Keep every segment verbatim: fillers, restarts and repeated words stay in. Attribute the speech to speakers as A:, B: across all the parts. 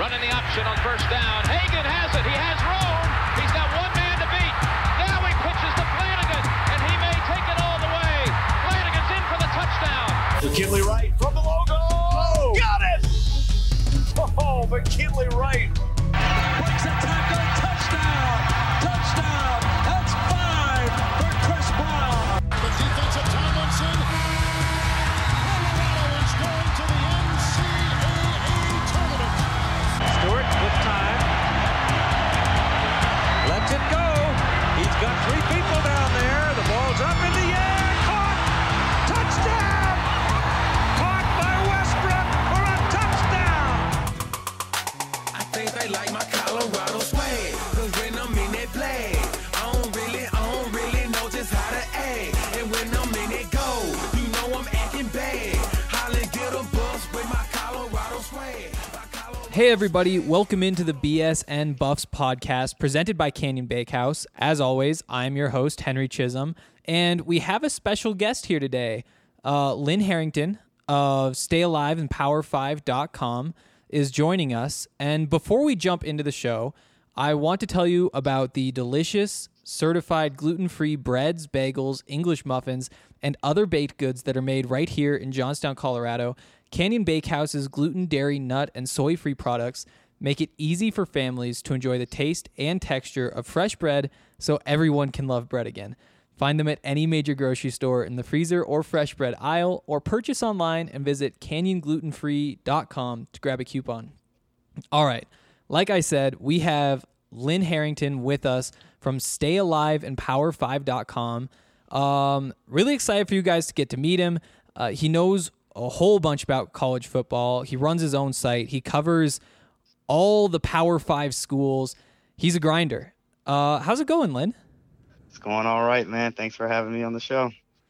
A: Running the option on first down. Hagan has it. He has room. He's got one man to beat. Now he pitches to Flanagan, and he may take it all the way. Flanagan's in for the touchdown.
B: McKinley Wright from the logo. Oh, got it! Oh, McKinley Wright.
C: Breaks a tackle. Touchdown. Touchdown. That's five for Chris Brown.
D: The defensive Tomlinson. Colorado is going to the N C double A tournament.
C: Stewart with time. Lets it go. He's got three people down there. The ball's up in the air. Caught. Touchdown. Caught by Westbrook for a touchdown.
E: I think they like my Colorado swag. Cause when I'm in that play, I don't really, I don't really know just how to act. And when I'm in it go, you know I'm acting bad. Holly get a bus with my Colorado swag.
F: Hey everybody, welcome into the B S N Buffs podcast presented by Canyon Bakehouse. As always, I'm your host, Henry Chisholm, and we have a special guest here today. Uh, Lynn Harrington of Stay Alive and Power five dot com is joining us. And before we jump into the show, I want to tell you about the delicious, certified gluten-free breads, bagels, English muffins, and other baked goods that are made right here in Johnstown, Colorado. Canyon Bakehouse's gluten, dairy, nut, and soy-free products make it easy for families to enjoy the taste and texture of fresh bread so everyone can love bread again. Find them at any major grocery store in the freezer or fresh bread aisle, or purchase online and visit canyon gluten free dot com to grab a coupon. All right, like I said, we have Lynn Harrington with us from Stay Alive and Power five dot com. Um, really excited for you guys to get to meet him. Uh, he knows a whole bunch about college football. He runs his own site. He covers all the Power Five schools. He's a grinder. Uh, how's it going, Lynn?
G: It's going all right, man. Thanks for having me on the show.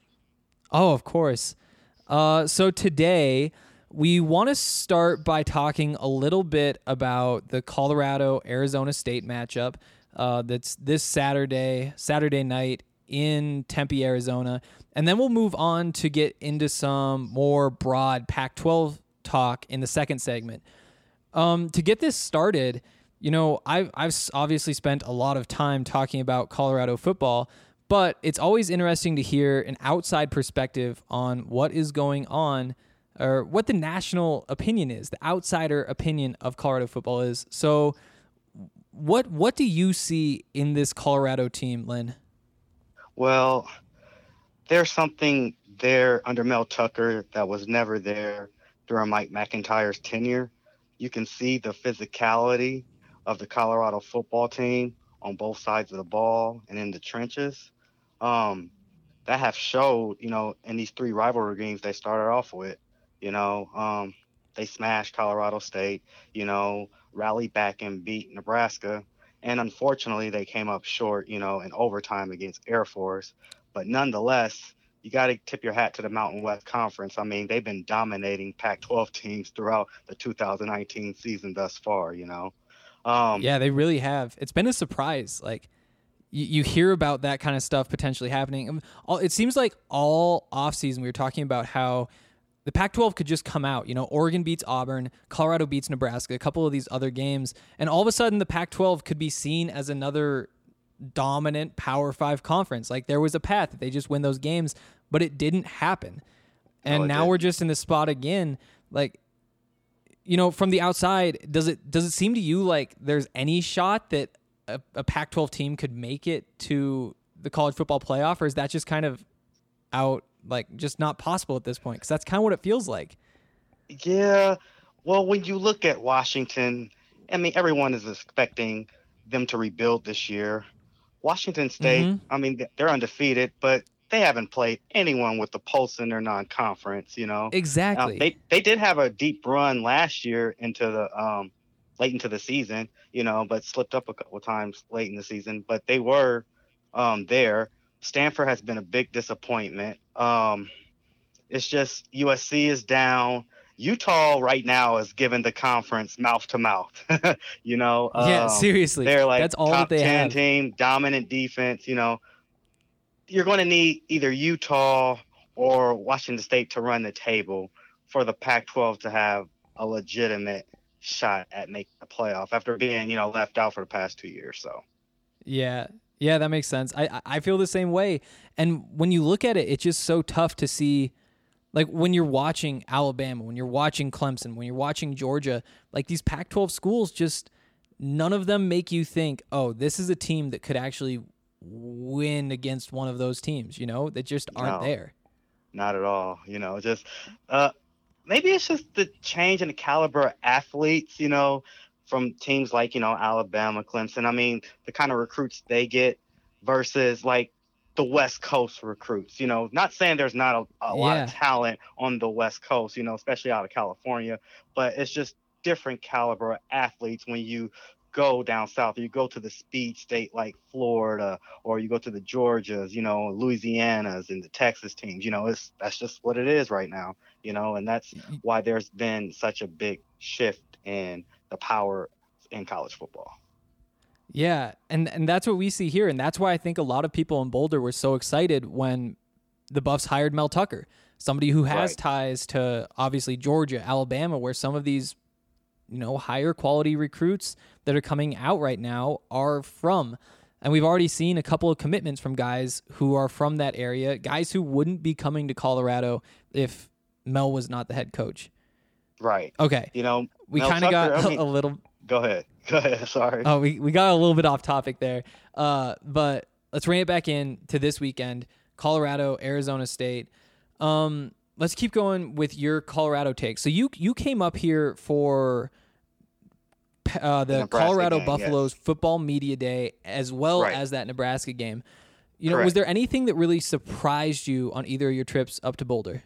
F: Oh, of course. Uh, so today we want to start by talking a little bit about the Colorado-Arizona State matchup uh, that's this Saturday, Saturday night in Tempe, Arizona. And then we'll move on to get into some more broad Pac twelve talk in the second segment. Um, to get this started, you know, I've, I've obviously spent a lot of time talking about Colorado football, but it's always interesting to hear an outside perspective on what is going on, or what the national opinion is, the outsider opinion of Colorado football is. So what what do you see in this Colorado team, Lynn?
G: Well, there's something there under Mel Tucker that was never there during Mike McIntyre's tenure. You can see the physicality of the Colorado football team on both sides of the ball and in the trenches. Um, that have showed, you know, in these three rivalry games they started off with. You know, um, they smashed Colorado State, you know, rallied back and beat Nebraska. And unfortunately, they came up short, you know, in overtime against Air Force. But nonetheless, you got to tip your hat to the Mountain West Conference. I mean, they've been dominating Pac twelve teams throughout the two thousand nineteen season thus far, you know. Um,
F: yeah, they really have. It's been a surprise. Like, you, you hear about that kind of stuff potentially happening. All, it seems like all offseason we were talking about how the Pac twelve could just come out. You know, Oregon beats Auburn, Colorado beats Nebraska, a couple of these other games, and all of a sudden the Pac twelve could be seen as another dominant Power Five conference. Like, there was a path that they just win those games, but it didn't happen. And
G: no,
F: now
G: didn't.
F: we're just in this spot again. Like, you know, from the outside, does it does it seem to you like there's any shot that a, a Pac twelve team could make it to the college football playoff, or is that just kind of out, like, just not possible at this point? Because that's kind of what it feels like.
G: Yeah. Well, when you look at Washington, I mean, everyone is expecting them to rebuild this year. Washington State,
F: Mm-hmm.
G: I mean, they're undefeated, but they haven't played anyone with the pulse in their non-conference, you know.
F: Exactly.
G: Um, they they did have a deep run last year into the um late into the season, you know, but slipped up a couple of times late in the season. But they were um there. Stanford has been a big disappointment. Um, it's just U S C is down. Utah right now is giving the conference mouth to mouth. You know.
F: Yeah,
G: um,
F: seriously.
G: They're like
F: that's all
G: top
F: that they
G: ten
F: have.
G: team, dominant defense. You know, you're going to need either Utah or Washington State to run the table for the Pac twelve to have a legitimate shot at making the playoff after being, you know, left out for the past two years. So,
F: Yeah. Yeah, that makes sense. I I feel the same way. And when you look at it, it's just so tough to see, like when you're watching Alabama, when you're watching Clemson, when you're watching Georgia, like these Pac twelve schools, just none of them make you think, oh, this is a team that could actually win against one of those teams, you know, that just aren't
G: No.
F: there.
G: not at all. You know, just uh, maybe it's just the change in the caliber of athletes, you know, from teams like, you know, Alabama, Clemson. I mean, the kind of recruits they get versus like the West Coast recruits, you know, not saying there's not a, a lot
F: Yeah.
G: of talent on the West Coast, you know, especially out of California, but it's just different caliber of athletes when you go down south, or you go to the speed state like Florida, or you go to the Georgias, you know, Louisianas and the Texas teams, you know, it's that's just what it is right now, you know, and that's why there's been such a big shift in the power in college football.
F: Yeah, and and that's what we see here, and that's why I think a lot of people in Boulder were so excited when the Buffs hired Mel Tucker, somebody who has
G: Right.
F: ties to obviously Georgia, Alabama, where some of these, you know, higher quality recruits that are coming out right now are from. And we've already seen a couple of commitments from guys who are from that area, guys who wouldn't be coming to Colorado if Mel was not the head coach.
G: Right.
F: Okay,
G: You know,
F: we
G: Mel
F: kind of got
G: Tucker, I mean-
F: a little
G: Go ahead. Go ahead. Sorry.
F: Oh, we, we got a little bit off topic there. Uh, but let's rein it back in to this weekend. Colorado, Arizona State. Um, let's keep going with your Colorado take. So you you came up here for uh, the
G: Nebraska
F: Colorado
G: game,
F: Buffaloes
G: yes.
F: football media day as well
G: Right.
F: as that Nebraska game. You know, was
G: Correct.
F: there anything that really surprised you on either of your trips up to Boulder?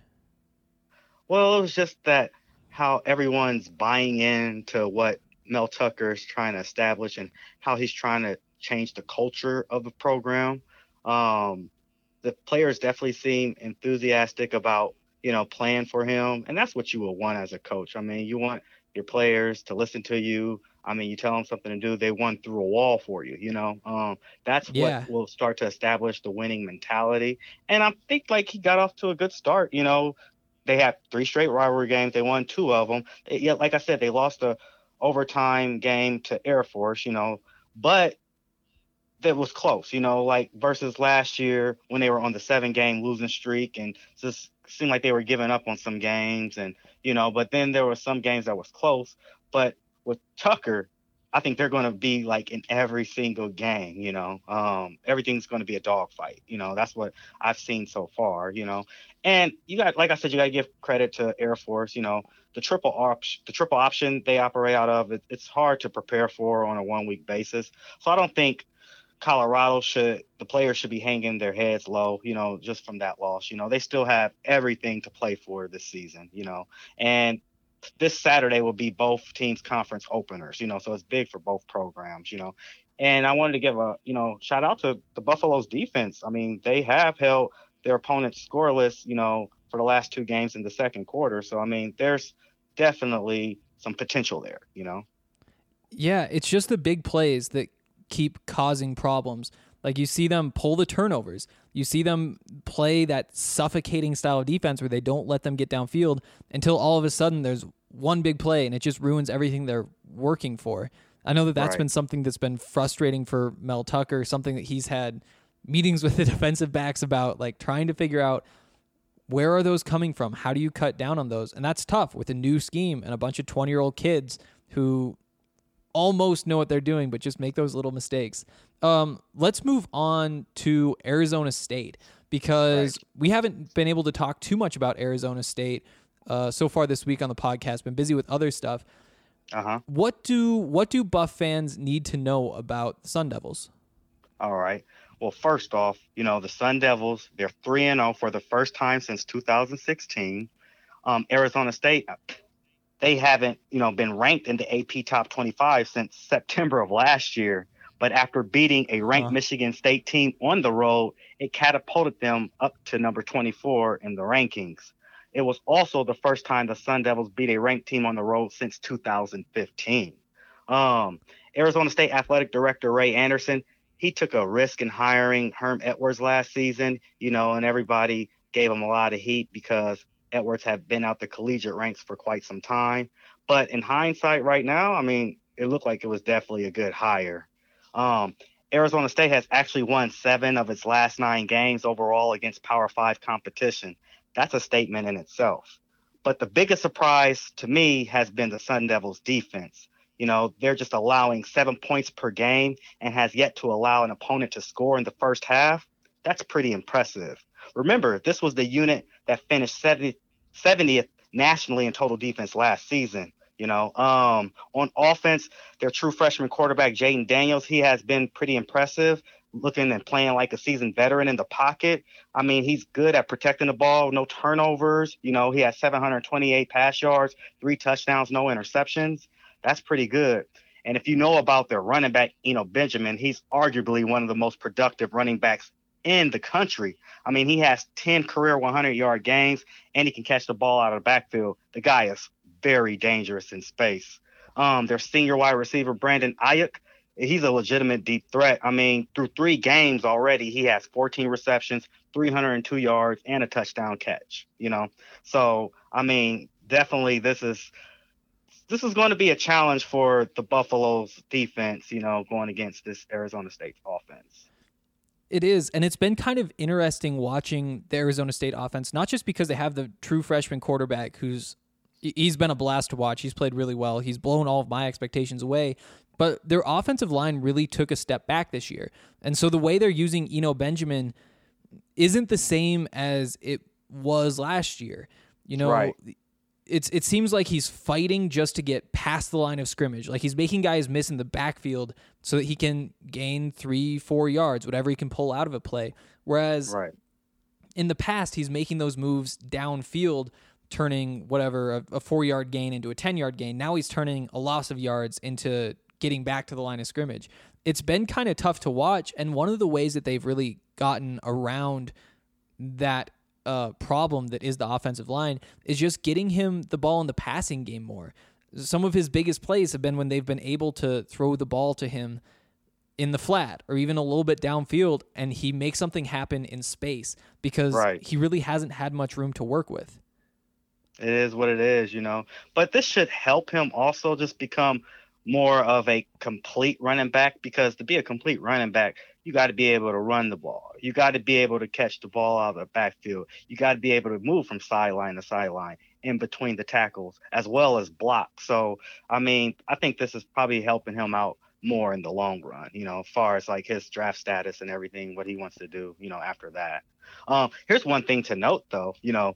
G: Well, it was just that how everyone's buying into what Mel Tucker is trying to establish and how he's trying to change the culture of the program. Um, the players definitely seem enthusiastic about, you know, playing for him. And that's what you will want as a coach. I mean, you want your players to listen to you. I mean, you tell them something to do, they run through a wall for you, you know. Um, that's
F: Yeah.
G: what will start to establish the winning mentality. And I think, like, he got off to a good start, you know. They had three straight rivalry games. They won two of them. They, yeah, like I said, they lost a overtime game to Air Force, you know, but that was close, you know, like versus last year when they were on the seven game losing streak and just seemed like they were giving up on some games and, you know, but then there were some games that was close. But with Tucker, I think they're going to be like in every single game, you know, um, everything's going to be a dogfight. You know, that's what I've seen so far, you know, and you got, like I said, you got to give credit to Air Force, you know, the triple option, the triple option they operate out of, it, it's hard to prepare for on a one week basis. So I don't think Colorado should, the players should be hanging their heads low, you know, just from that loss. You know, they still have everything to play for this season, you know, and this Saturday will be both teams' conference openers, you know, so it's big for both programs, you know. And I wanted to give a, you know, shout out to the Buffaloes defense. I mean, they have held their opponents scoreless, you know, for the last two games in the second quarter. So, I mean, there's definitely some potential there, you know.
F: Yeah, it's just the big plays that keep causing problems. Like you see them pull the turnovers. You see them play that suffocating style of defense where they don't let them get downfield until all of a sudden there's one big play and it just ruins everything they're working for. I know that that's
G: Right.
F: been something that's been frustrating for Mel Tucker, something that he's had meetings with the defensive backs about, like trying to figure out where are those coming from? How do you cut down on those? And that's tough with a new scheme and a bunch of twenty-year-old kids who almost know what they're doing, but just make those little mistakes. Um, let's move on to Arizona State because we haven't been able to talk too much about Arizona State uh, so far this week on the podcast. Been busy with other stuff.
G: Uh-huh.
F: What do what do Buff fans need to know about the Sun Devils?
G: All right. Well, first off, you know, the Sun Devils, they're three and oh for the first time since two thousand sixteen. Um, Arizona State, they haven't, you know, been ranked in the A P Top twenty-five since September of last year. But after beating a ranked
F: Huh.
G: Michigan State team on the road, it catapulted them up to number twenty-four in the rankings. It was also the first time the Sun Devils beat a ranked team on the road since two thousand fifteen. Um, Arizona State Athletic Director Ray Anderson, he took a risk in hiring Herm Edwards last season, you know, and everybody gave him a lot of heat because Edwards have been out the collegiate ranks for quite some time. But in hindsight right now, I mean, it looked like it was definitely a good hire. Um, Arizona State has actually won seven of its last nine games overall against Power Five competition. That's a statement in itself. But the biggest surprise to me has been the Sun Devils defense. You know, they're just allowing seven points per game and has yet to allow an opponent to score in the first half. That's pretty impressive. Remember, this was the unit that finished seventieth nationally in total defense last season. You know, um, on offense, their true freshman quarterback, Jaden Daniels, he has been pretty impressive, looking and playing like a seasoned veteran in the pocket. I mean, he's good at protecting the ball, no turnovers. You know, he has seven hundred twenty-eight pass yards, three touchdowns, no interceptions. That's pretty good. And if you know about their running back, Eno Benjamin, he's arguably one of the most productive running backs in the country. I mean, he has ten career hundred-yard games, and he can catch the ball out of the backfield. The guy is very dangerous in space. Um, their senior wide receiver, Brandon Ayuk, he's a legitimate deep threat. I mean, through three games already, he has fourteen receptions, three hundred two yards, and a touchdown catch, you know? So, I mean, definitely this is this is going to be a challenge for the Buffalo's defense, you know, going against this Arizona State offense.
F: It is, and it's been kind of interesting watching the Arizona State offense, not just because they have the true freshman quarterback who's he's been a blast to watch. He's played really well. He's blown all of my expectations away. But their offensive line really took a step back this year. And so the way they're using Eno Benjamin isn't the same as it was last year. You know,
G: right.
F: it's it seems like he's fighting just to get past the line of scrimmage. Like he's making guys miss in the backfield so that he can gain three, four yards, whatever he can pull out of a play. Whereas
G: right.
F: in the past, he's making those moves downfield, turning whatever a, a four-yard gain into a ten-yard gain. Now he's turning a loss of yards into getting back to the line of scrimmage. It's been kind of tough to watch, and one of the ways that they've really gotten around that uh, problem that is the offensive line is just getting him the ball in the passing game more. Some of his biggest plays have been when they've been able to throw the ball to him in the flat or even a little bit downfield, and he makes something happen in space because
G: right.
F: he really hasn't had much room to work with.
G: It is what it is, you know. But this should help him also just become more of a complete running back, because to be a complete running back, you got to be able to run the ball. You got to be able to catch the ball out of the backfield. You got to be able to move from sideline to sideline in between the tackles as well as block. So, I mean, I think this is probably helping him out more in the long run, you know, as far as like his draft status and everything, what he wants to do, you know, after that. Um, here's one thing to note, though, you know,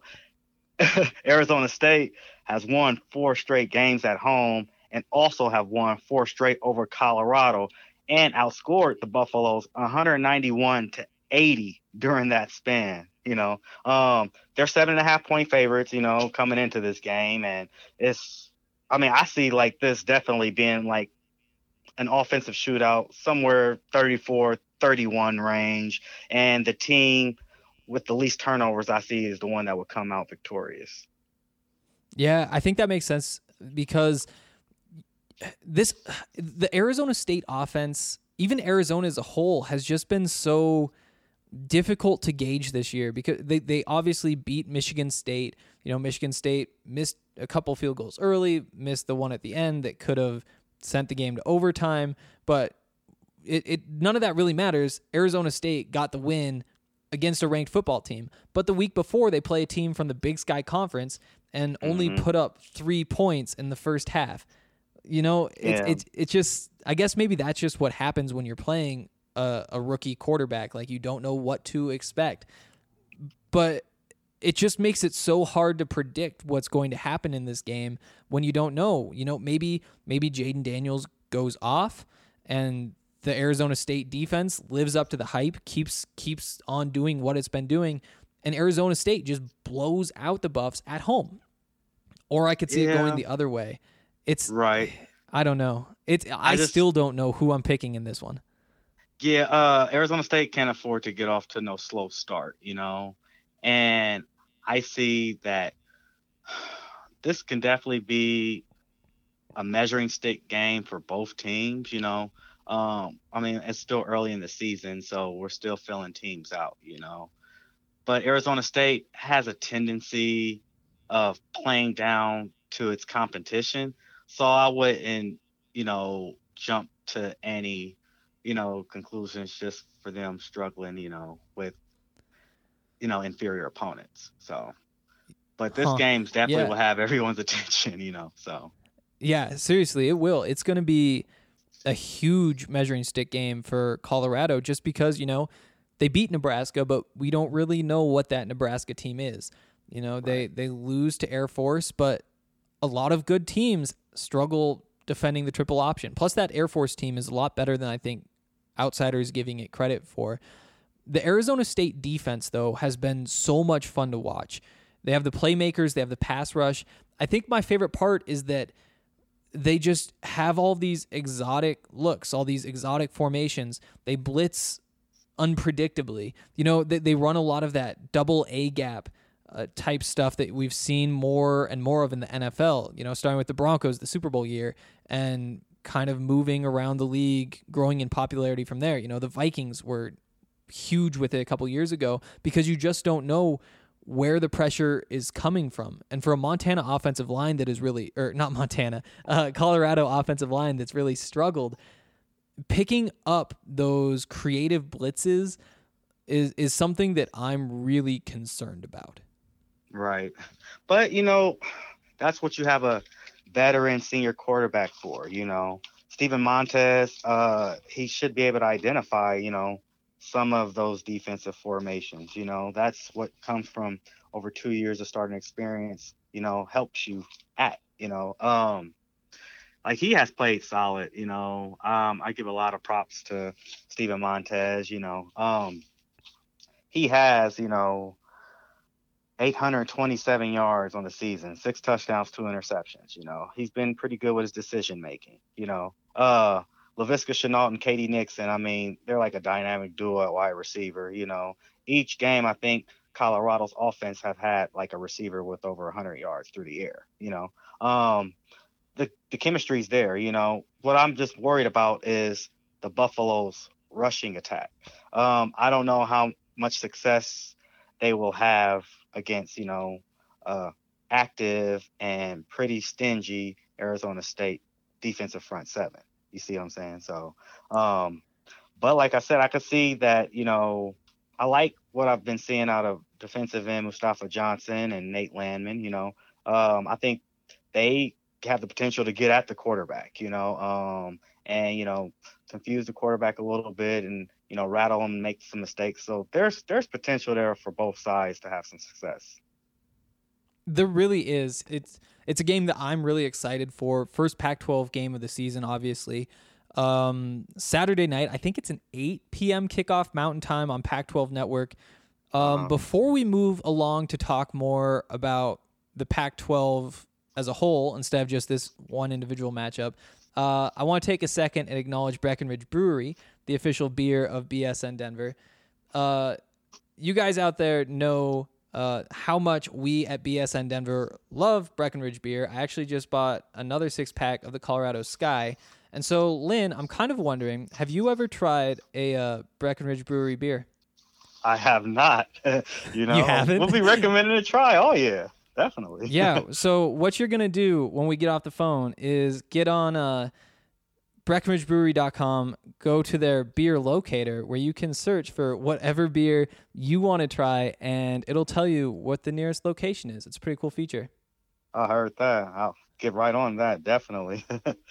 G: Arizona State has won four straight games at home and also have won four straight over Colorado and outscored the Buffaloes one ninety-one to eighty during that span. You know, um, they're seven and a half point favorites, you know, coming into this game. And it's, I mean, I see like this definitely being like an offensive shootout somewhere thirty-four thirty-one range. And the team with the least turnovers I see is the one that would come out victorious.
F: Yeah, I think that makes sense because this, the Arizona State offense, even Arizona as a whole, has just been so difficult to gauge this year because they, they obviously beat Michigan State. You know, Michigan State missed a couple field goals early, missed the one at the end that could have sent the game to overtime, but it, it none of that really matters. Arizona State got the win against a ranked football team. But the week before, they play a team from the Big Sky Conference and only mm-hmm. put up three points in the first half. You know, it's
G: yeah.
F: it's it's just, I guess maybe that's just what happens when you're playing a, a rookie quarterback. Like, you don't know what to expect. But it just makes it so hard to predict what's going to happen in this game when you don't know. You know, maybe maybe Jaden Daniels goes off and the Arizona State defense lives up to the hype, keeps keeps on doing what it's been doing, and Arizona State just blows out the Buffs at home. Or I could see
G: yeah.
F: it going the other way. It's
G: right.
F: I don't know. It's I,
G: I just,
F: still don't know who I'm picking in this one.
G: Yeah, uh, Arizona State can't afford to get off to no slow start, you know, and I see that this can definitely be a measuring stick game for both teams, you know. Um, I mean, it's still early in the season, so we're still filling teams out, you know. But Arizona State has a tendency of playing down to its competition. So I wouldn't, you know, jump to any, you know, conclusions just for them struggling, you know, with, you know, inferior opponents. So, but this
F: Huh.
G: game's definitely
F: Yeah.
G: will have everyone's attention, you know, so.
F: Yeah, seriously, it will. It's going to be a huge measuring stick game for Colorado just because, you know, they beat Nebraska, but we don't really know what that Nebraska team is. You know, they,
G: Right.
F: they lose to Air Force, but a lot of good teams struggle defending the triple option. Plus, that Air Force team is a lot better than I think outsiders giving it credit for. The Arizona State defense, though, has been so much fun to watch. They have the playmakers, they have the pass rush. I think my favorite part is that they just have all these exotic looks, all these exotic formations. They blitz unpredictably. You know, they, they run a lot of that double A gap uh, type stuff that we've seen more and more of in the N F L, you know, starting with the Broncos, the Super Bowl year, and kind of moving around the league, growing in popularity from there. You know, the Vikings were huge with it a couple years ago because you just don't know where the pressure is coming from. And for a Montana offensive line that is really, or not Montana, uh, Colorado offensive line that's really struggled, picking up those creative blitzes is, is something that I'm really concerned about.
G: Right. But, you know, that's what you have a veteran senior quarterback for, you know. Steven Montez, uh, he should be able to identify, you know, some of those defensive formations. You know, that's what comes from over two years of starting experience, you know, helps you at, you know. Um, like he has played solid, you know. Um, I give a lot of props to Steven Montez, you know. Um, he has, you know, eight hundred twenty-seven yards on the season, six touchdowns, two interceptions. You know, he's been pretty good with his decision making. You know, uh, Laviska Shenault and Katie Nixon. I mean, they're like a dynamic duo at wide receiver. You know, each game I think Colorado's offense have had like a receiver with over one hundred yards through the air. You know, um, the the chemistry's there. You know, what I'm just worried about is the Buffalo's rushing attack. Um, I don't know how much success they will have against, you know, uh, active and pretty stingy Arizona State defensive front seven. You see what I'm saying? So, um, but like I said, I could see that, you know, I like what I've been seeing out of defensive end Mustafa Johnson and Nate Landman. You know, um, I think they have the potential to get at the quarterback, you know, um, and, you know, confuse the quarterback a little bit and, you know, rattle him and make some mistakes. So there's there's potential there for both sides to have some success.
F: There really is. It's it's a game that I'm really excited for. First Pac twelve game of the season, obviously. Um, Saturday night, I think it's an eight p.m. kickoff Mountain Time on Pac twelve Network. Um,
G: Uh-huh.
F: Before we move along to talk more about the Pac twelve as a whole, instead of just this one individual matchup, uh, I want to take a second and acknowledge Breckenridge Brewery, the official beer of B S N Denver. Uh, you guys out there know uh, how much we at B S N Denver love Breckenridge beer. I actually just bought another six-pack of the Colorado Sky. And so, Lynn, I'm kind of wondering, have you ever tried a uh, Breckenridge Brewery beer?
G: I have not. you know,
F: haven't?
G: we'll be recommending a try. Oh, yeah, definitely.
F: Yeah, so what you're going to do when we get off the phone is get on uh, Breckenridge Brewery dot com, go to their beer locator where you can search for whatever beer you want to try, and it'll tell you what the nearest location is. It's a pretty cool feature.
G: I heard that. I'll get right on that, definitely.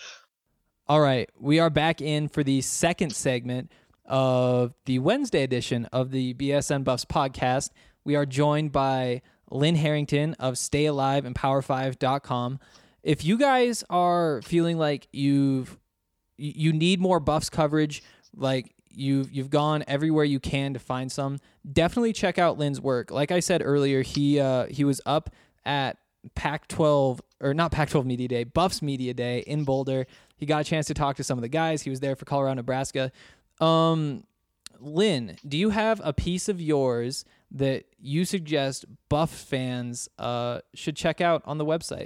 F: All right, we are back in for the second segment of the Wednesday edition of the B S N Buffs podcast. We are joined by Lynn Harrington of Stay Alive and Power five dot com. If you guys are feeling like you've you need more Buffs coverage, like you've you've gone everywhere you can to find some, definitely check out Lynn's work. Like I said earlier, he uh, he was up at Pac twelve, or not Pac twelve Media Day, Buffs Media Day in Boulder. He got a chance to talk to some of the guys. He was there for Colorado, Nebraska. Um, Lynn, do you have a piece of yours that you suggest Buff fans uh, should check out on the website?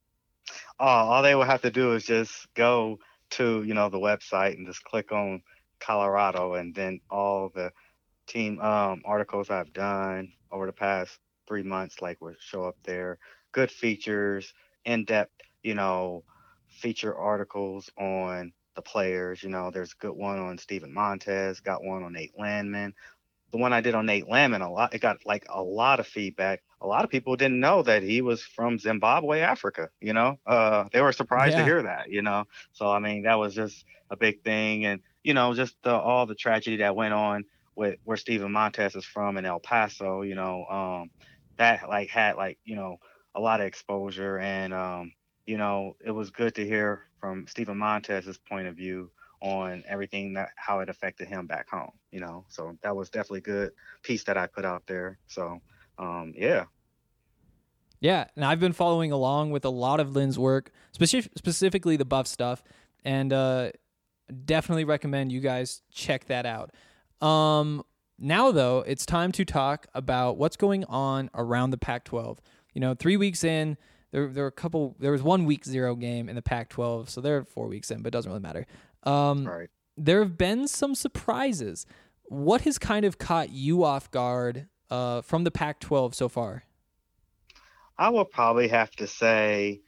G: Oh, all they will have to do is just go to, you know, the website and just click on Colorado, and then all the team um, articles I've done over the past three months, like, will show up there. good features, in-depth, you know, feature articles on the players. You know, there's a good one on Steven Montez, got one on Nate Landman. The one I did on Nate Landman, a lot, it got like a lot of feedback. A lot of people didn't know that he was from Zimbabwe, Africa. You know, uh, they were surprised
F: Yeah.
G: to hear that. You know, so I mean, that was just a big thing, and you know, just the, all the tragedy that went on with where Steven Montez is from in El Paso. You know, um, that like had like you know a lot of exposure, and um, you know, it was good to hear from Steven Montez's point of view on everything that how it affected him back home, you know. So that was definitely a good piece that I put out there. So um yeah.
F: Yeah, and I've been following along with a lot of Lynn's work, specific, specifically the Buff stuff, and uh, definitely recommend you guys check that out. Um, now, though, it's time to talk about what's going on around the Pac twelve. You know, three weeks in, there there were a couple. There was one week zero game in the Pac twelve, so they're four weeks in, but it doesn't really matter. Um,
G: Right.
F: There have been some surprises. What has kind of caught you off guard uh, from the Pac twelve so far?
G: I will probably have to say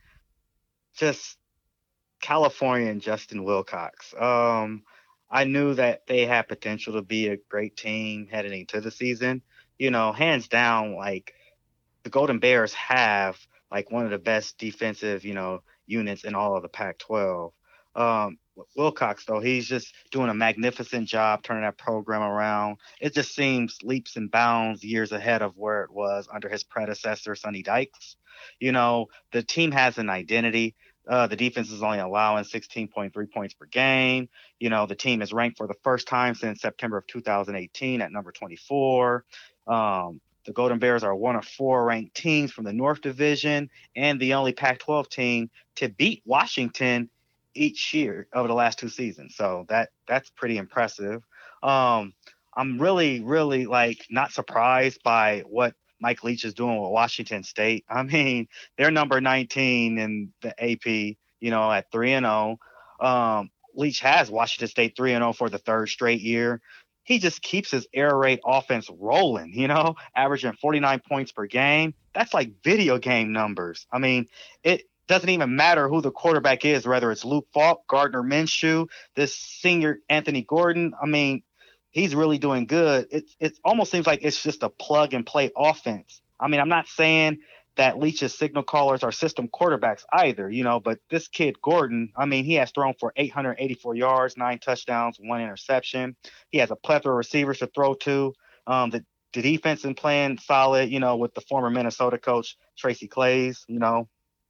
G: just California and Justin Wilcox. Um, I knew that they had potential to be a great team heading into the season. You know, hands down, like the Golden Bears have like one of the best defensive, you know, units in all of the Pac twelve. Um, Wilcox, though, he's just doing a magnificent job turning that program around. It just seems leaps and bounds years ahead of where it was under his predecessor, Sonny Dykes. You know, the team has an identity. Uh, the defense is only allowing sixteen point three points per game. You know, the team is ranked for the first time since September of two thousand eighteen at number twenty-four. Um, the Golden Bears are one of four ranked teams from the North Division and the only Pac twelve team to beat Washington each year over the last two seasons. So that that's pretty impressive. Um, I'm really, really like not surprised by what Mike Leach is doing with Washington State. I mean, they're number nineteen in the A P, you know, at three and oh. Um, Leach has Washington State three and oh for the third straight year. He just keeps his air raid offense rolling, you know, averaging forty-nine points per game. That's like video game numbers. I mean, it doesn't even matter who the quarterback is, whether it's Luke Falk, Gardner Minshew, this senior Anthony Gordon. I mean, he's really doing good. It, it almost seems like it's just a plug and play offense. I mean, I'm not saying that Leach's signal callers are system quarterbacks either, you know, but this kid Gordon, I mean, he has thrown for eight hundred eighty-four yards, nine touchdowns, one interception. He has a plethora of receivers to throw to. Um, the, the defense is playing solid, you know, with the former Minnesota coach, Tracy Claeys, you know.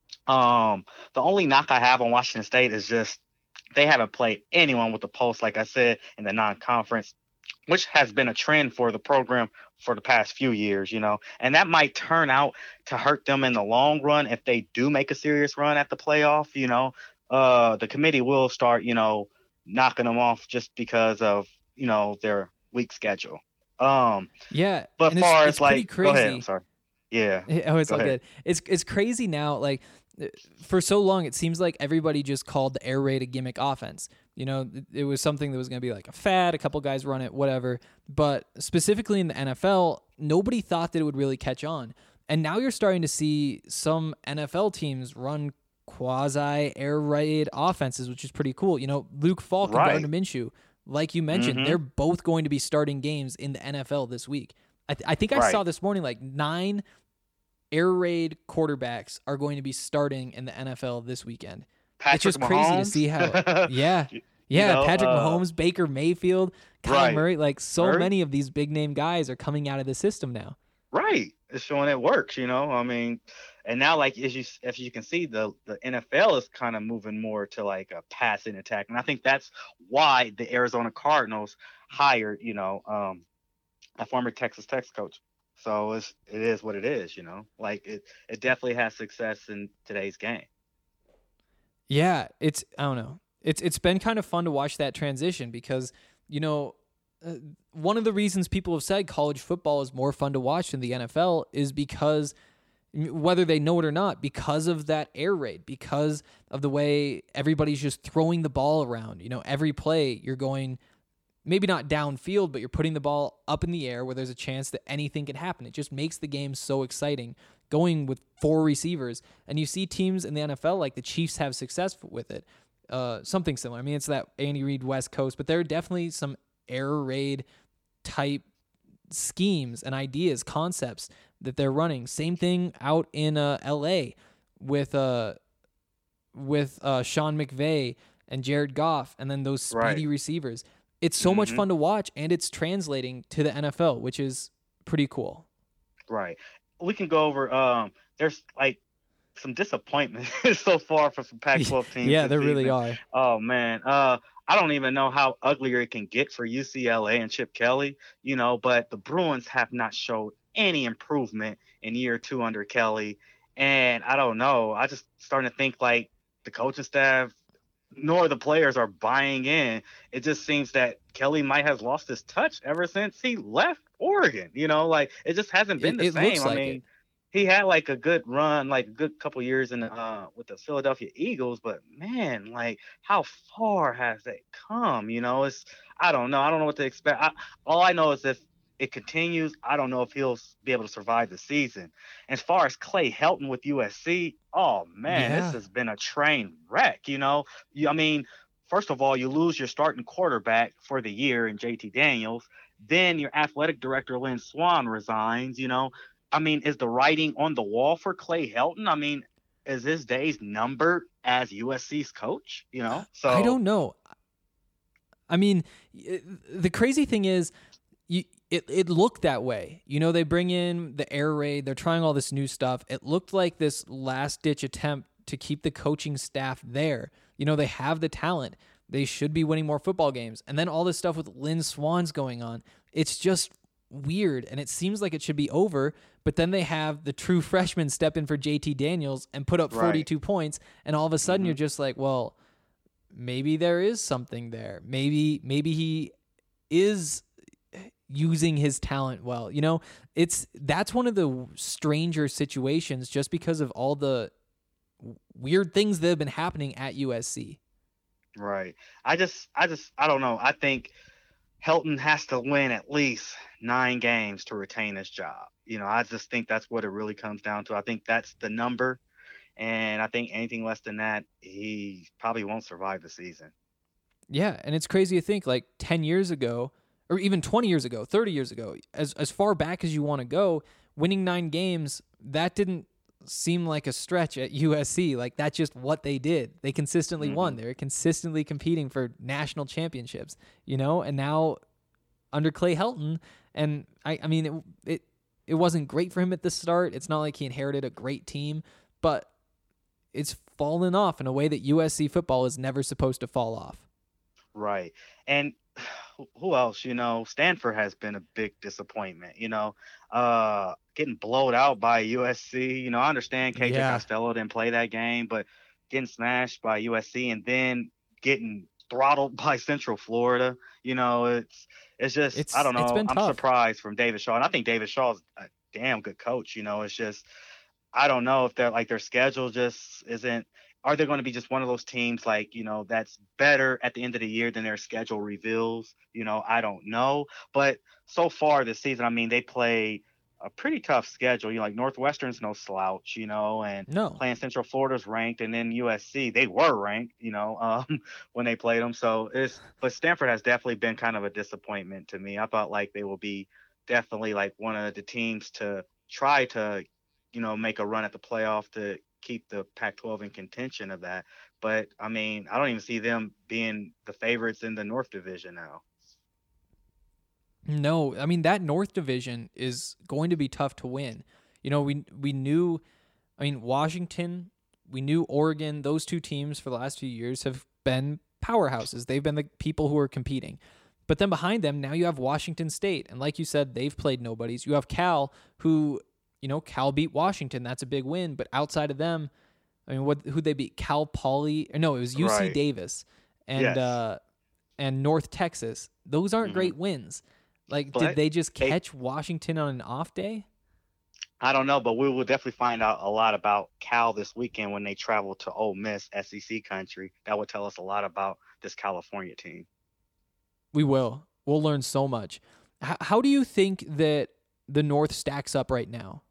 G: Um, the only knock I have on Washington State is just they haven't played anyone with the pulse, like I said, in the non-conference, which has been a trend for the program for the past few years, you know, and that might turn out to hurt them in the long run if they do make a serious run at the playoff. You know, uh, the committee will start, you know, knocking them off just because of, you know, their weak schedule. Um,
F: Yeah,
G: but
F: and
G: far
F: it's,
G: as
F: it's
G: like,
F: pretty crazy.
G: go ahead, I'm sorry. Yeah.
F: Oh, it's
G: Go
F: all
G: ahead.
F: good. It's it's crazy now. Like for so long, it seems like everybody just called the air raid a gimmick offense. You know, it, it was something that was going to be like a fad. A couple guys run it, whatever. But specifically in the N F L, nobody thought that it would really catch on. And now you're starting to see some N F L teams run quasi air raid offenses, which is pretty cool. You know, Luke Falk
G: Right.
F: and Gardner Minshew, like you mentioned,
G: Mhm.
F: they're both going to be starting games in the N F L this week. I, th- I think I
G: Right.
F: saw this morning like nine air raid quarterbacks are going to be starting in the N F L this weekend.
G: Patrick
F: it's just crazy to
G: Mahomes.
F: see how. Yeah, yeah.
G: know,
F: Patrick
G: uh,
F: Mahomes, Baker Mayfield, Kyle
G: right.
F: Murray. Like so
G: Murray?
F: many of these big name guys are coming out of the system now.
G: Right. It's showing it works, you know. I mean, and now like as you as you can see, the the N F L is kind of moving more to like a passing attack, and I think that's why the Arizona Cardinals hired, you know, um, a former Texas Tech coach. So it's it is what it is, you know. Like it it definitely has success in today's game.
F: Yeah, it's I don't know. It's it's been kind of fun to watch that transition because you know uh, one of the reasons people have said college football is more fun to watch than the N F L is because whether they know it or not, because of that air raid, because of the way everybody's just throwing the ball around. You know, every play you're going maybe not downfield, but you're putting the ball up in the air where there's a chance that anything can happen. It just makes the game so exciting. going with four receivers, and you see teams in the N F L like the Chiefs have success with it. Uh, something similar. I mean, it's that Andy Reid West Coast, but there are definitely some air raid type schemes and ideas, concepts that they're running. Same thing out in uh, L A with uh, with uh, Sean McVay and Jared Goff, and then those speedy
G: Right.
F: receivers. It's so much
G: Mhm.
F: fun to watch, and it's translating to the N F L, which is pretty cool.
G: Right. We can go over. Um, there's like some disappointment so far for some Pac twelve teams.
F: Yeah,
G: this
F: there really
G: season.
F: are.
G: Oh man. Uh, I don't even know how uglier it can get for U C L A and Chip Kelly. You know, but the Bruins have not showed any improvement in year two under Kelly, and I don't know. I just starting to think like the coaching staff nor the players are buying in. It just seems that Kelly might have lost his touch ever since he left Oregon. You know, like it just hasn't been
F: It-
G: the
F: it
G: same.
F: looks
G: I
F: like
G: mean,
F: it.
G: he had like a good run, like a good couple years in uh with the Philadelphia Eagles, but man, like how far has that come? You know, it's I don't know. I don't know what to expect. I, all I know is if it continues, I don't know if he'll s- be able to survive the season. As far as Clay Helton with U S C, oh man,
F: Yeah.
G: this has been a train wreck. You know, you, I mean, first of all, you lose your starting quarterback for the year in J T Daniels. Then your athletic director Lynn Swan resigns. You know, I mean, is the writing on the wall for Clay Helton? I mean, is his days numbered as U S C's coach? You know, so
F: I don't know. I mean, it, the crazy thing is, you it it looked that way. You know, they bring in the air raid. They're trying all this new stuff. It looked like this last ditch attempt to keep the coaching staff there. You know, they have the talent. They should be winning more football games. And then all this stuff with Lynn Swan's going on. It's just weird, and it seems like it should be over. But then they have the true freshman step in for J T Daniels and put up
G: Right.
F: forty-two points, and all of a sudden
G: Mhm.
F: you're just like, well, maybe there is something there. Maybe maybe he is using his talent well. You know, it's that's one of the stranger situations just because of all the weird things that have been happening at U S C.
G: Right. I just, I just, I don't know. I think Helton has to win at least nine games to retain his job. You know, I just think that's what it really comes down to. I think that's the number. And I think anything less than that, he probably won't survive the season.
F: Yeah, and it's crazy to think like ten years ago, or even twenty years ago, thirty years ago, as as far back as you want to go, winning nine games, that didn't seem like a stretch at U S C. Like that's just what they did. They consistently won. They were consistently competing for national championships, you know, and now under Clay Helton, and I, I mean, it, it it wasn't great for him at the start. It's not like he inherited a great team, but it's fallen off in a way that U S C football is never supposed to fall off.
G: Right. And who- who else, you know, Stanford has been a big disappointment, you know, uh, getting blowed out by U S C. You know, I understand K J
F: Yeah.
G: Costello didn't play that game, but getting smashed by U S C and then getting throttled by Central Florida, you know, it's, it's just,
F: It's-
G: I don't know.
F: it's been
G: I'm
F: tough.
G: surprised from David Shaw. And I think David Shaw's a damn good coach, you know, it's just, I don't know if they're like their schedule just isn't, are they going to be just one of those teams like, you know, that's better at the end of the year than their schedule reveals? You know, I don't know. But so far this season, I mean, they play a pretty tough schedule. You know, like Northwestern's no slouch, you know, and
F: No.
G: playing Central Florida's ranked, and then U S C, they were ranked, you know, um, when they played them. So it's, but Stanford has definitely been kind of a disappointment to me. I thought like they will be definitely like one of the teams to try to, you know, make a run at the playoff to keep the Pac twelve in contention of that. But I mean, I don't even see them being the favorites in the North Division now.
F: No, I mean that North Division is going to be tough to win. You know, we we knew, I mean Washington, we knew Oregon. Those two teams for the last few years have been powerhouses. They've been the people who are competing. But then behind them, now you have Washington State, and like you said, they've played nobodies. You have Cal, who, you know, Cal beat Washington. That's a big win. But outside of them, I mean, what who'd they beat? Cal Poly? Or no, it was U C
G: Right.
F: Davis and
G: Yes.
F: uh, and North Texas. Those aren't
G: Mhm.
F: great wins. Like,
G: But
F: did they just
G: they-
F: catch Washington on an off day?
G: I don't know, but we will definitely find out a lot about Cal this weekend when they travel to Ole Miss, S E C country. That would tell us a lot about this California team.
F: We will. We'll learn so much. H- how do you think that the North stacks up right now?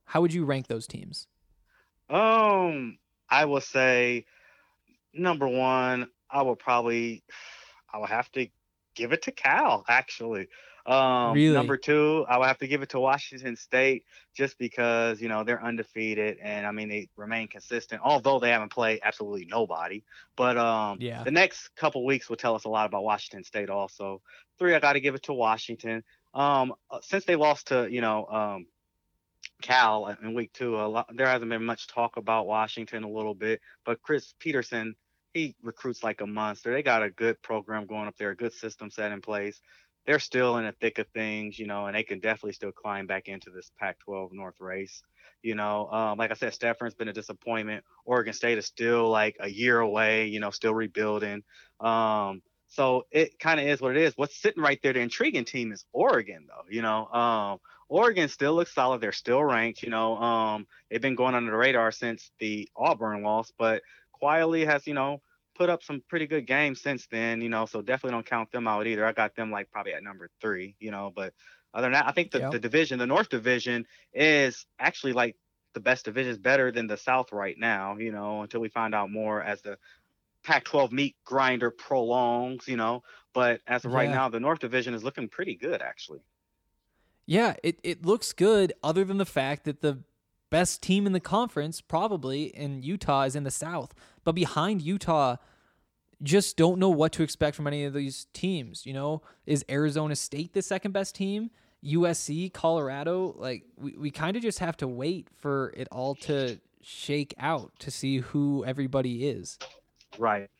F: How would you rank those teams?
G: Um, I will say number one, I will probably, I will have to give it to Cal, actually. Um,
F: Really?
G: Number two, I would have to give it to Washington State just because, you know, they're undefeated and I mean, they remain consistent, although they haven't played absolutely nobody. But um,
F: Yeah.
G: the next couple weeks will tell us a lot about Washington State also. Three, I got to give it to Washington. Um, uh, since they lost to, you know, um, Cal in week two, a lot, there hasn't been much talk about Washington a little bit, but Chris Peterson, he recruits like a monster. They got a good program going up there, a good system set in place. They're still in the thick of things, you know, and they can definitely still climb back into this Pac twelve North race. You know, um, like I said, Stephen's been a disappointment. Oregon State is still like a year away, you know, still rebuilding. Um, so it kind of is what it is. What's sitting right there, the intriguing team is Oregon, though. You know, um, Oregon still looks solid. They're still ranked. You know, um, they've been going under the radar since the Auburn loss, but quietly has, you know, put up some pretty good games since then, you know, so definitely don't count them out either. I got them like probably at number three, you know, but other than that, I think the,
F: Yep.
G: the division, the North Division is actually like the best division, is better than the South right now, you know, until we find out more as the Pac twelve meat grinder prolongs, you know, but as of right
F: Yeah.
G: now, the North Division is looking pretty good, actually.
F: Yeah, it, it looks good other than the fact that the best team in the conference probably in Utah is in the South. But behind Utah, just don't know what to expect from any of these teams. You know, is Arizona State the second best team? U S C, Colorado? Like, we, we kind of just have to wait for it all to shake out to see who everybody is.
G: Right.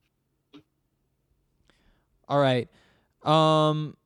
F: All right. Um,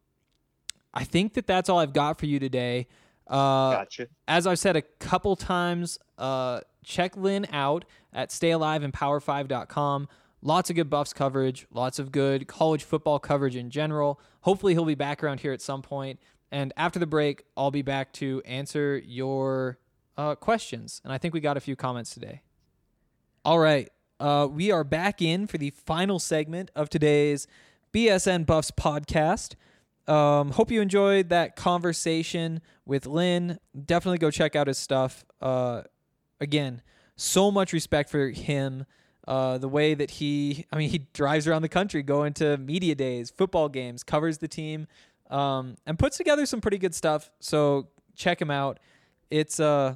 F: I think that that's all I've got for you today. Uh,
G: Gotcha.
F: As I've said a couple times, uh, check Lynn out at stay alive and power five dot com. Lots of good Buffs coverage, lots of good college football coverage in general. Hopefully he'll be back around here at some point. And after the break, I'll be back to answer your uh, questions. And I think we got a few comments today. All right. Uh, we are back in for the final segment of today's B S N Buffs podcast. Um, hope you enjoyed that conversation with Lynn. Definitely go check out his stuff. Uh, again, so much respect for him. Uh, the way that he, I mean, he drives around the country, going to media days, football games, covers the team, um, and puts together some pretty good stuff. So check him out. It's uh,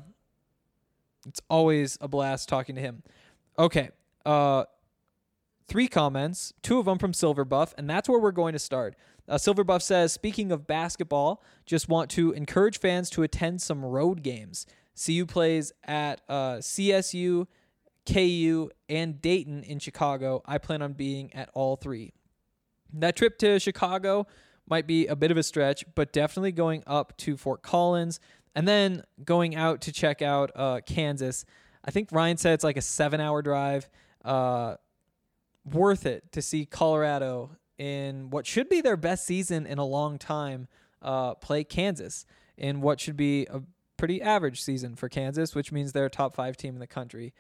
F: it's always a blast talking to him. Okay, uh, three comments, two of them from Silver Buff, and that's where we're going to start. Uh, Silver Buff says, speaking of basketball, just want to encourage fans to attend some road games. C U plays at uh, C S U, K U, and Dayton in Chicago. I plan on being at all three. That trip to Chicago might be a bit of a stretch, but definitely going up to Fort Collins and then going out to check out uh, Kansas. I think Ryan said it's like a seven-hour drive. Uh, worth it to see Colorado in what should be their best season in a long time uh, play Kansas in what should be a pretty average season for Kansas, which means they're a top five team in the country.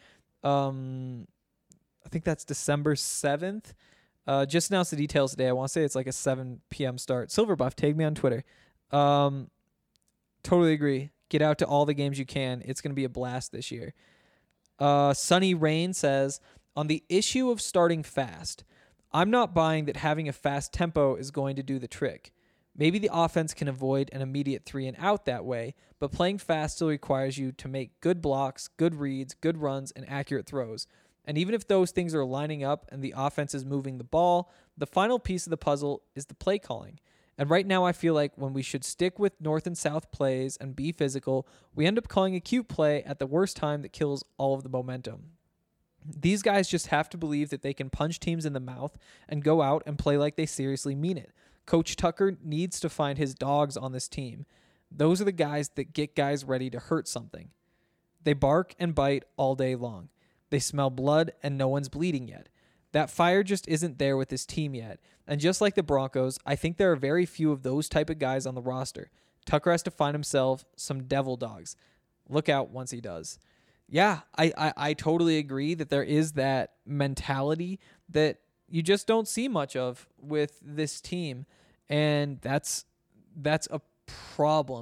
F: Um, I think that's December seventh. Uh, just announced the details today. I want to say it's like a seven p.m. start. Silver Buff, tag me on Twitter. Um, totally agree. Get out to all the games you can. It's going to be a blast this year. Uh, Sunny Rain says, on the issue of starting fast, I'm not buying that having a fast tempo is going to do the trick. Maybe the offense can avoid an immediate three and out that way, but playing fast still requires you to make good blocks, good reads, good runs, and accurate throws. And even if those things are lining up and the offense is moving the ball, the final piece of the puzzle is the play calling. And right now I feel like when we should stick with north and south plays and be physical, we end up calling a cute play at the worst time that kills all of the momentum. These guys just have to believe that they can punch teams in the mouth and go out and play like they seriously mean it. Coach Tucker needs to find his dogs on this team. Those are the guys that get guys ready to hurt something. They bark and bite all day long. They smell blood and no one's bleeding yet. That fire just isn't there with this team yet. And just like the Broncos, I think there are very few of those type of guys on the roster. Tucker has to find himself some devil dogs. Look out once he does. Yeah, I, I, I totally agree that there is that mentality that you just don't see much of with this team. And that's that's a problem.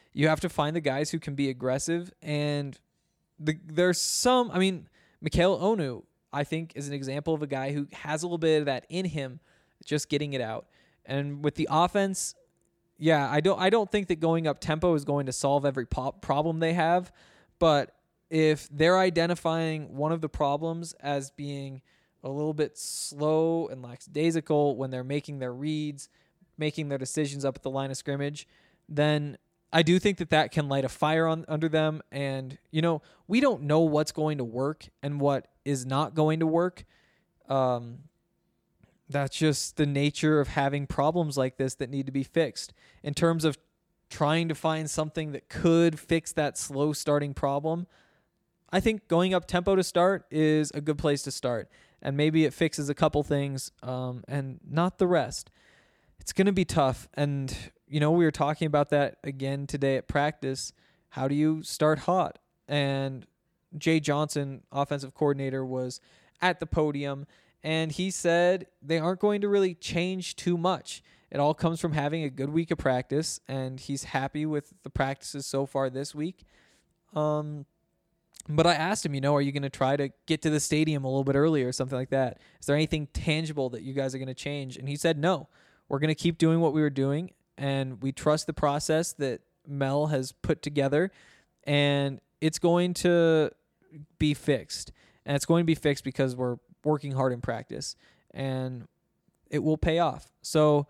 F: you have to find the guys who can be aggressive. And the, there's some, I mean, Mikhail Onu, I think, is an example of a guy who has a little bit of that in him, just getting it out. And with the offense, yeah, I don't I don't think that going up tempo is going to solve every pop problem they have, but if they're identifying one of the problems as being a little bit slow and lackadaisical when they're making their reads, making their decisions up at the line of scrimmage, then I do think that that can light a fire on under them. And, you know, we don't know what's going to work and what is not going to work. Um, that's just the nature of having problems like this that need to be fixed. In terms of trying to find something that could fix that slow starting problem, I think going up tempo to start is a good place to start. And maybe it fixes a couple things um, and not the rest. It's going to be tough. And, you know, we were talking about that again today at practice. How do you start hot? And Jay Johnson, offensive coordinator, was at the podium, and he said they aren't going to really change too much. It all comes from having a good week of practice, and he's happy with the practices so far this week. Um, but I asked him, you know, are you going to try to get to the stadium a little bit earlier or something like that? Is there anything tangible that you guys are going to change? And he said, no, we're going to keep doing what we were doing, and we trust the process that Mel has put together, and it's going to be fixed. And it's going to be fixed because we're working hard in practice, and it will pay off. So,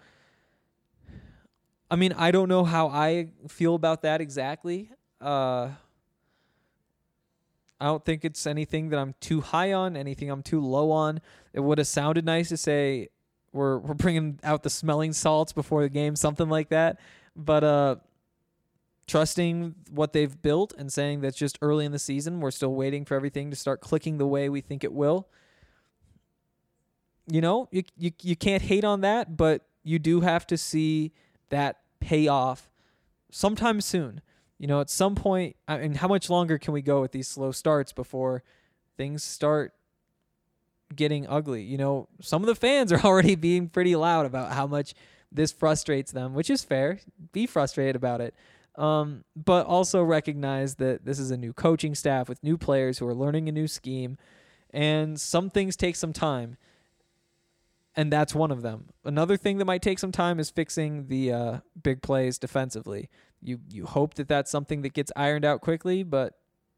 F: I mean, I don't know how I feel about that exactly. Uh, I don't think it's anything that I'm too high on, anything I'm too low on. It would have sounded nice to say we're we're bringing out the smelling salts before the game, something like that. But uh, trusting what they've built and saying that's just early in the season, we're still waiting for everything to start clicking the way we think it will. You know, you you you can't hate on that, but you do have to see that pay off sometime soon. You know, at some point, I mean, how much longer can we go with these slow starts before things start getting ugly? You know, some of the fans are already being pretty loud about how much this frustrates them, which is fair. Be frustrated about it. Um, but also recognize that this is a new coaching staff with new players who are learning a new scheme, and some things take some time. And that's one of them. Another thing that might take some time is fixing the uh, big plays defensively. You you hope that that's something that gets ironed out quickly, but,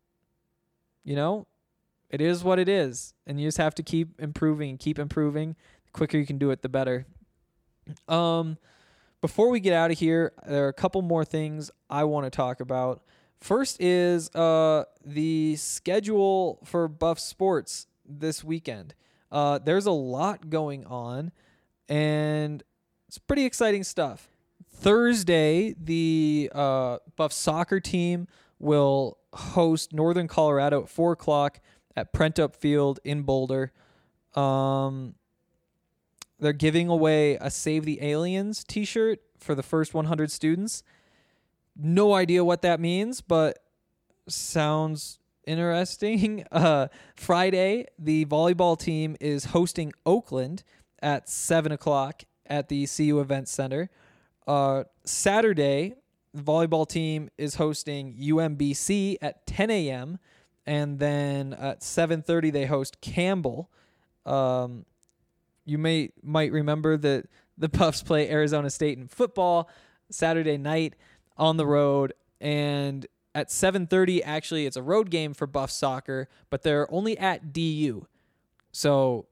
F: you know, it is what it is. And you just have to keep improving and keep improving. The quicker you can do it, the better. Um, before we get out of here, there are a couple more things I want to talk about. First is uh, the schedule for Buff Sports this weekend. Uh, there's a lot going on, and it's pretty exciting stuff. Thursday, the uh, Buff soccer team will host Northern Colorado at four o'clock at Prentup Field in Boulder. Um, they're giving away a Save the Aliens t-shirt for the first one hundred students. No idea what that means, but sounds interesting. Uh, Friday, the volleyball team is hosting Oakland at seven o'clock at the C U Event Center. Uh, Saturday, the volleyball team is hosting U M B C at ten a.m. And then at seven thirty, they host Campbell. Um, you may might remember that the Buffs play Arizona State in football Saturday night on the road. And at seven thirty, actually, it's a road game for Buff soccer, but they're only at D U. So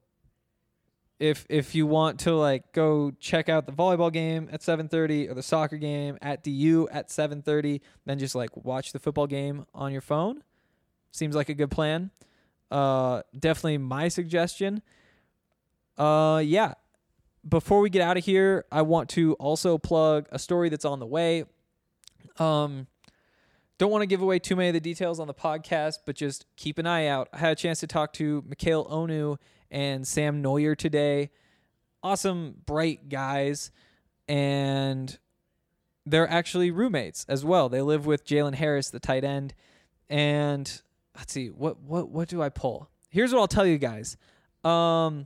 F: if if you want to like go check out the volleyball game at seven thirty or the soccer game at D U at seven thirty, then just like watch the football game on your phone. Seems like a good plan. Uh, definitely my suggestion. Uh, yeah. Before we get out of here, I want to also plug a story that's on the way. Um, don't want to give away too many of the details on the podcast, but just keep an eye out. I had a chance to talk to Mikhail Onu and Sam Neuer today. Awesome, bright guys. And they're actually roommates as well. They live with Jalen Harris, the tight end. And let's see, what what what do I pull? Here's what I'll tell you guys. Um,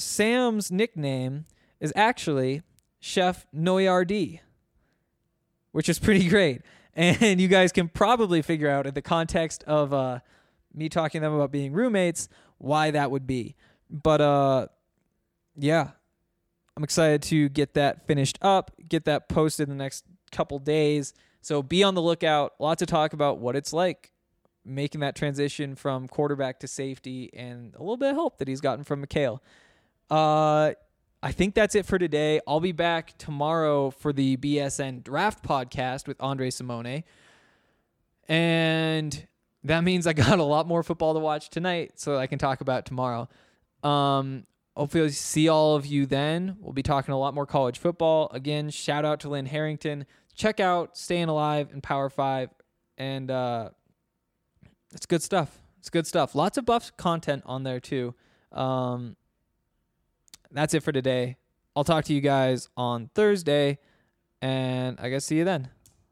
F: Sam's nickname is actually Chef Noyardi, which is pretty great. And you guys can probably figure out in the context of uh, me talking to them about being roommates why that would be. But uh, yeah, I'm excited to get that finished up, get that posted in the next couple days. So be on the lookout. A lot to talk about what it's like making that transition from quarterback to safety, and a little bit of help that he's gotten from Mikhail. Uh, I think that's it for today. I'll be back tomorrow for the B S N Draft Podcast with Andre Simone. And that means I got a lot more football to watch tonight, so I can talk about it tomorrow. Um, hopefully I'll see all of you then. We'll be talking a lot more college football. Again, shout out to Lynn Harrington. Check out Staying Alive in Power five. And uh, it's good stuff. It's good stuff. Lots of Buffs content on there too. Um, that's it for today. I'll talk to you guys on Thursday, and I guess see you then.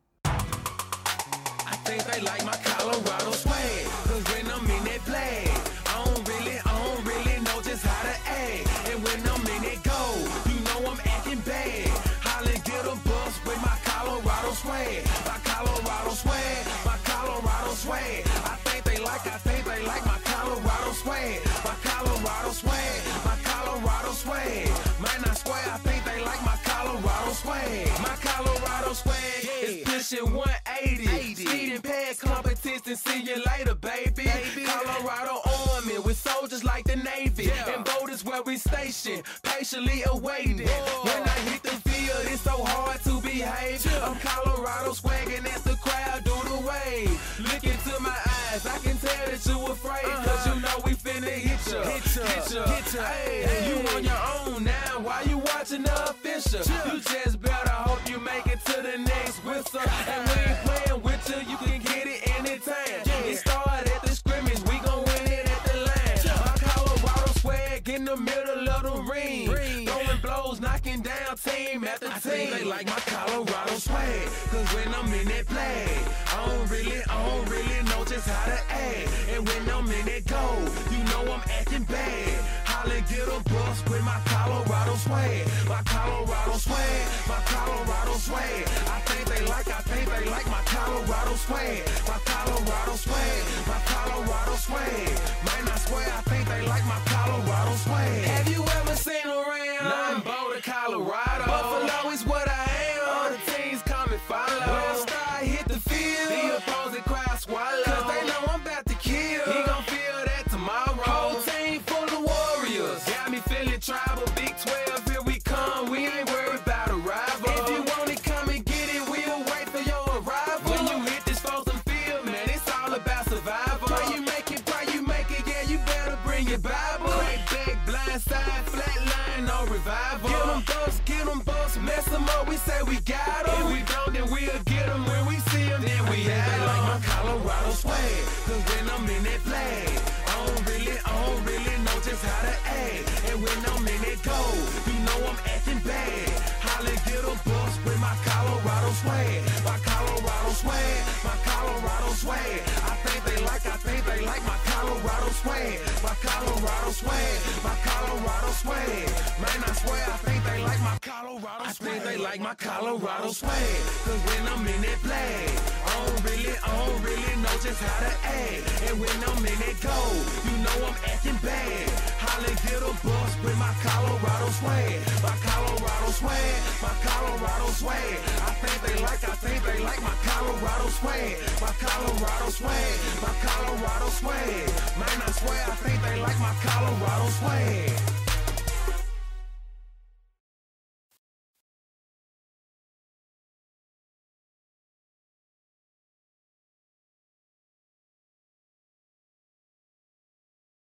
E: I think they like my Colorado swag, 'cause when I'm in that play, I don't really, I don't really know just how to act. And when I'm in that go, you know I'm acting bad. Holla, get a bus with my Colorado swag, my Colorado swag, my Colorado swag. I think they like, I think they like my Colorado swag, my Colorado swag, my Colorado swag. Man, I swear, I think they like my Colorado swag, my Colorado swag. Is pushing one eighty, speeding past competition. See you later, baby. baby. Colorado Army with soldiers like the Navy, yeah. And boat is where we station, patiently awaiting. Whoa. When I hit the field, it's so hard to behave. Yeah. I'm Colorado swagging as the crowd do the wave. Look into my eyes, I can tell that you afraid, uh-huh. 'Cause you know we finna hit ya, hit ya, hit ya, hit ya. Hey, hey. You on your own now, why you watching the official? Yeah. You just better hope you make it to the next whistle. And we ain't playing with you, you can get it anytime. Yeah. It started at the scrimmage, we gon' win it at the line. Yeah. My Colorado swag in the middle of the ring, ring. Throwing blows, knocking down team after I team. Think they like my Colorado swag, 'cause when I'm in that play, I don't really, I don't really know just how to act. And when I'm in that go, you know I'm acting bad. Holla, get a bus with my Colorado swag, my Colorado swag, my Colorado swag. I think they like, I think they like my Colorado swag, my Colorado swag, my Colorado swag. Man, I swear, I think they like my Colorado swag. Have you ever seen around? Nothing but Colorado. Buffalo is what I am. All the teams come and follow. When I start hit the field, the opposing crowd swallow, 'cause they know I'm about to kill. He gon' feel that tomorrow. Whole team full of warriors. Got me feeling tribal. Big twelve, here we come. We ain't worried about a rival. If you want it, come and get it. We'll wait for your arrival. When you hit this frozen field, man, it's all about survival. Pray you make it, pray you make it. Yeah, you better bring your Bible. Right back, blind side, flat line, no revival. Get them buffs, get them buffs, mess them up. We say we got them. If we don't, then we'll get them. When we see them, then we have them. They like my Colorado swag, 'cause when I'm in that flag, I don't really, I don't really know just how to act. And when I'm in that go, you know I'm acting bad. Holla, get a bus with my Colorado swag, my Colorado swag, my Colorado swag. I think they like, I think they like my Colorado swag, my Colorado swag, my Colorado swag. Man, I swear, I think they like my Colorado swag. I think they like my Colorado swag, 'cause when I'm in that flag, I don't really, I don't really know just how to act. And when I'm in that go, you know I'm acting bad. Holla, get a bus with my Colorado swag, my Colorado swag, my Colorado swag. I think they like, I think they like my Colorado swag, my Colorado swag, my Colorado swag. Man, I swear, I think they like my Colorado swag.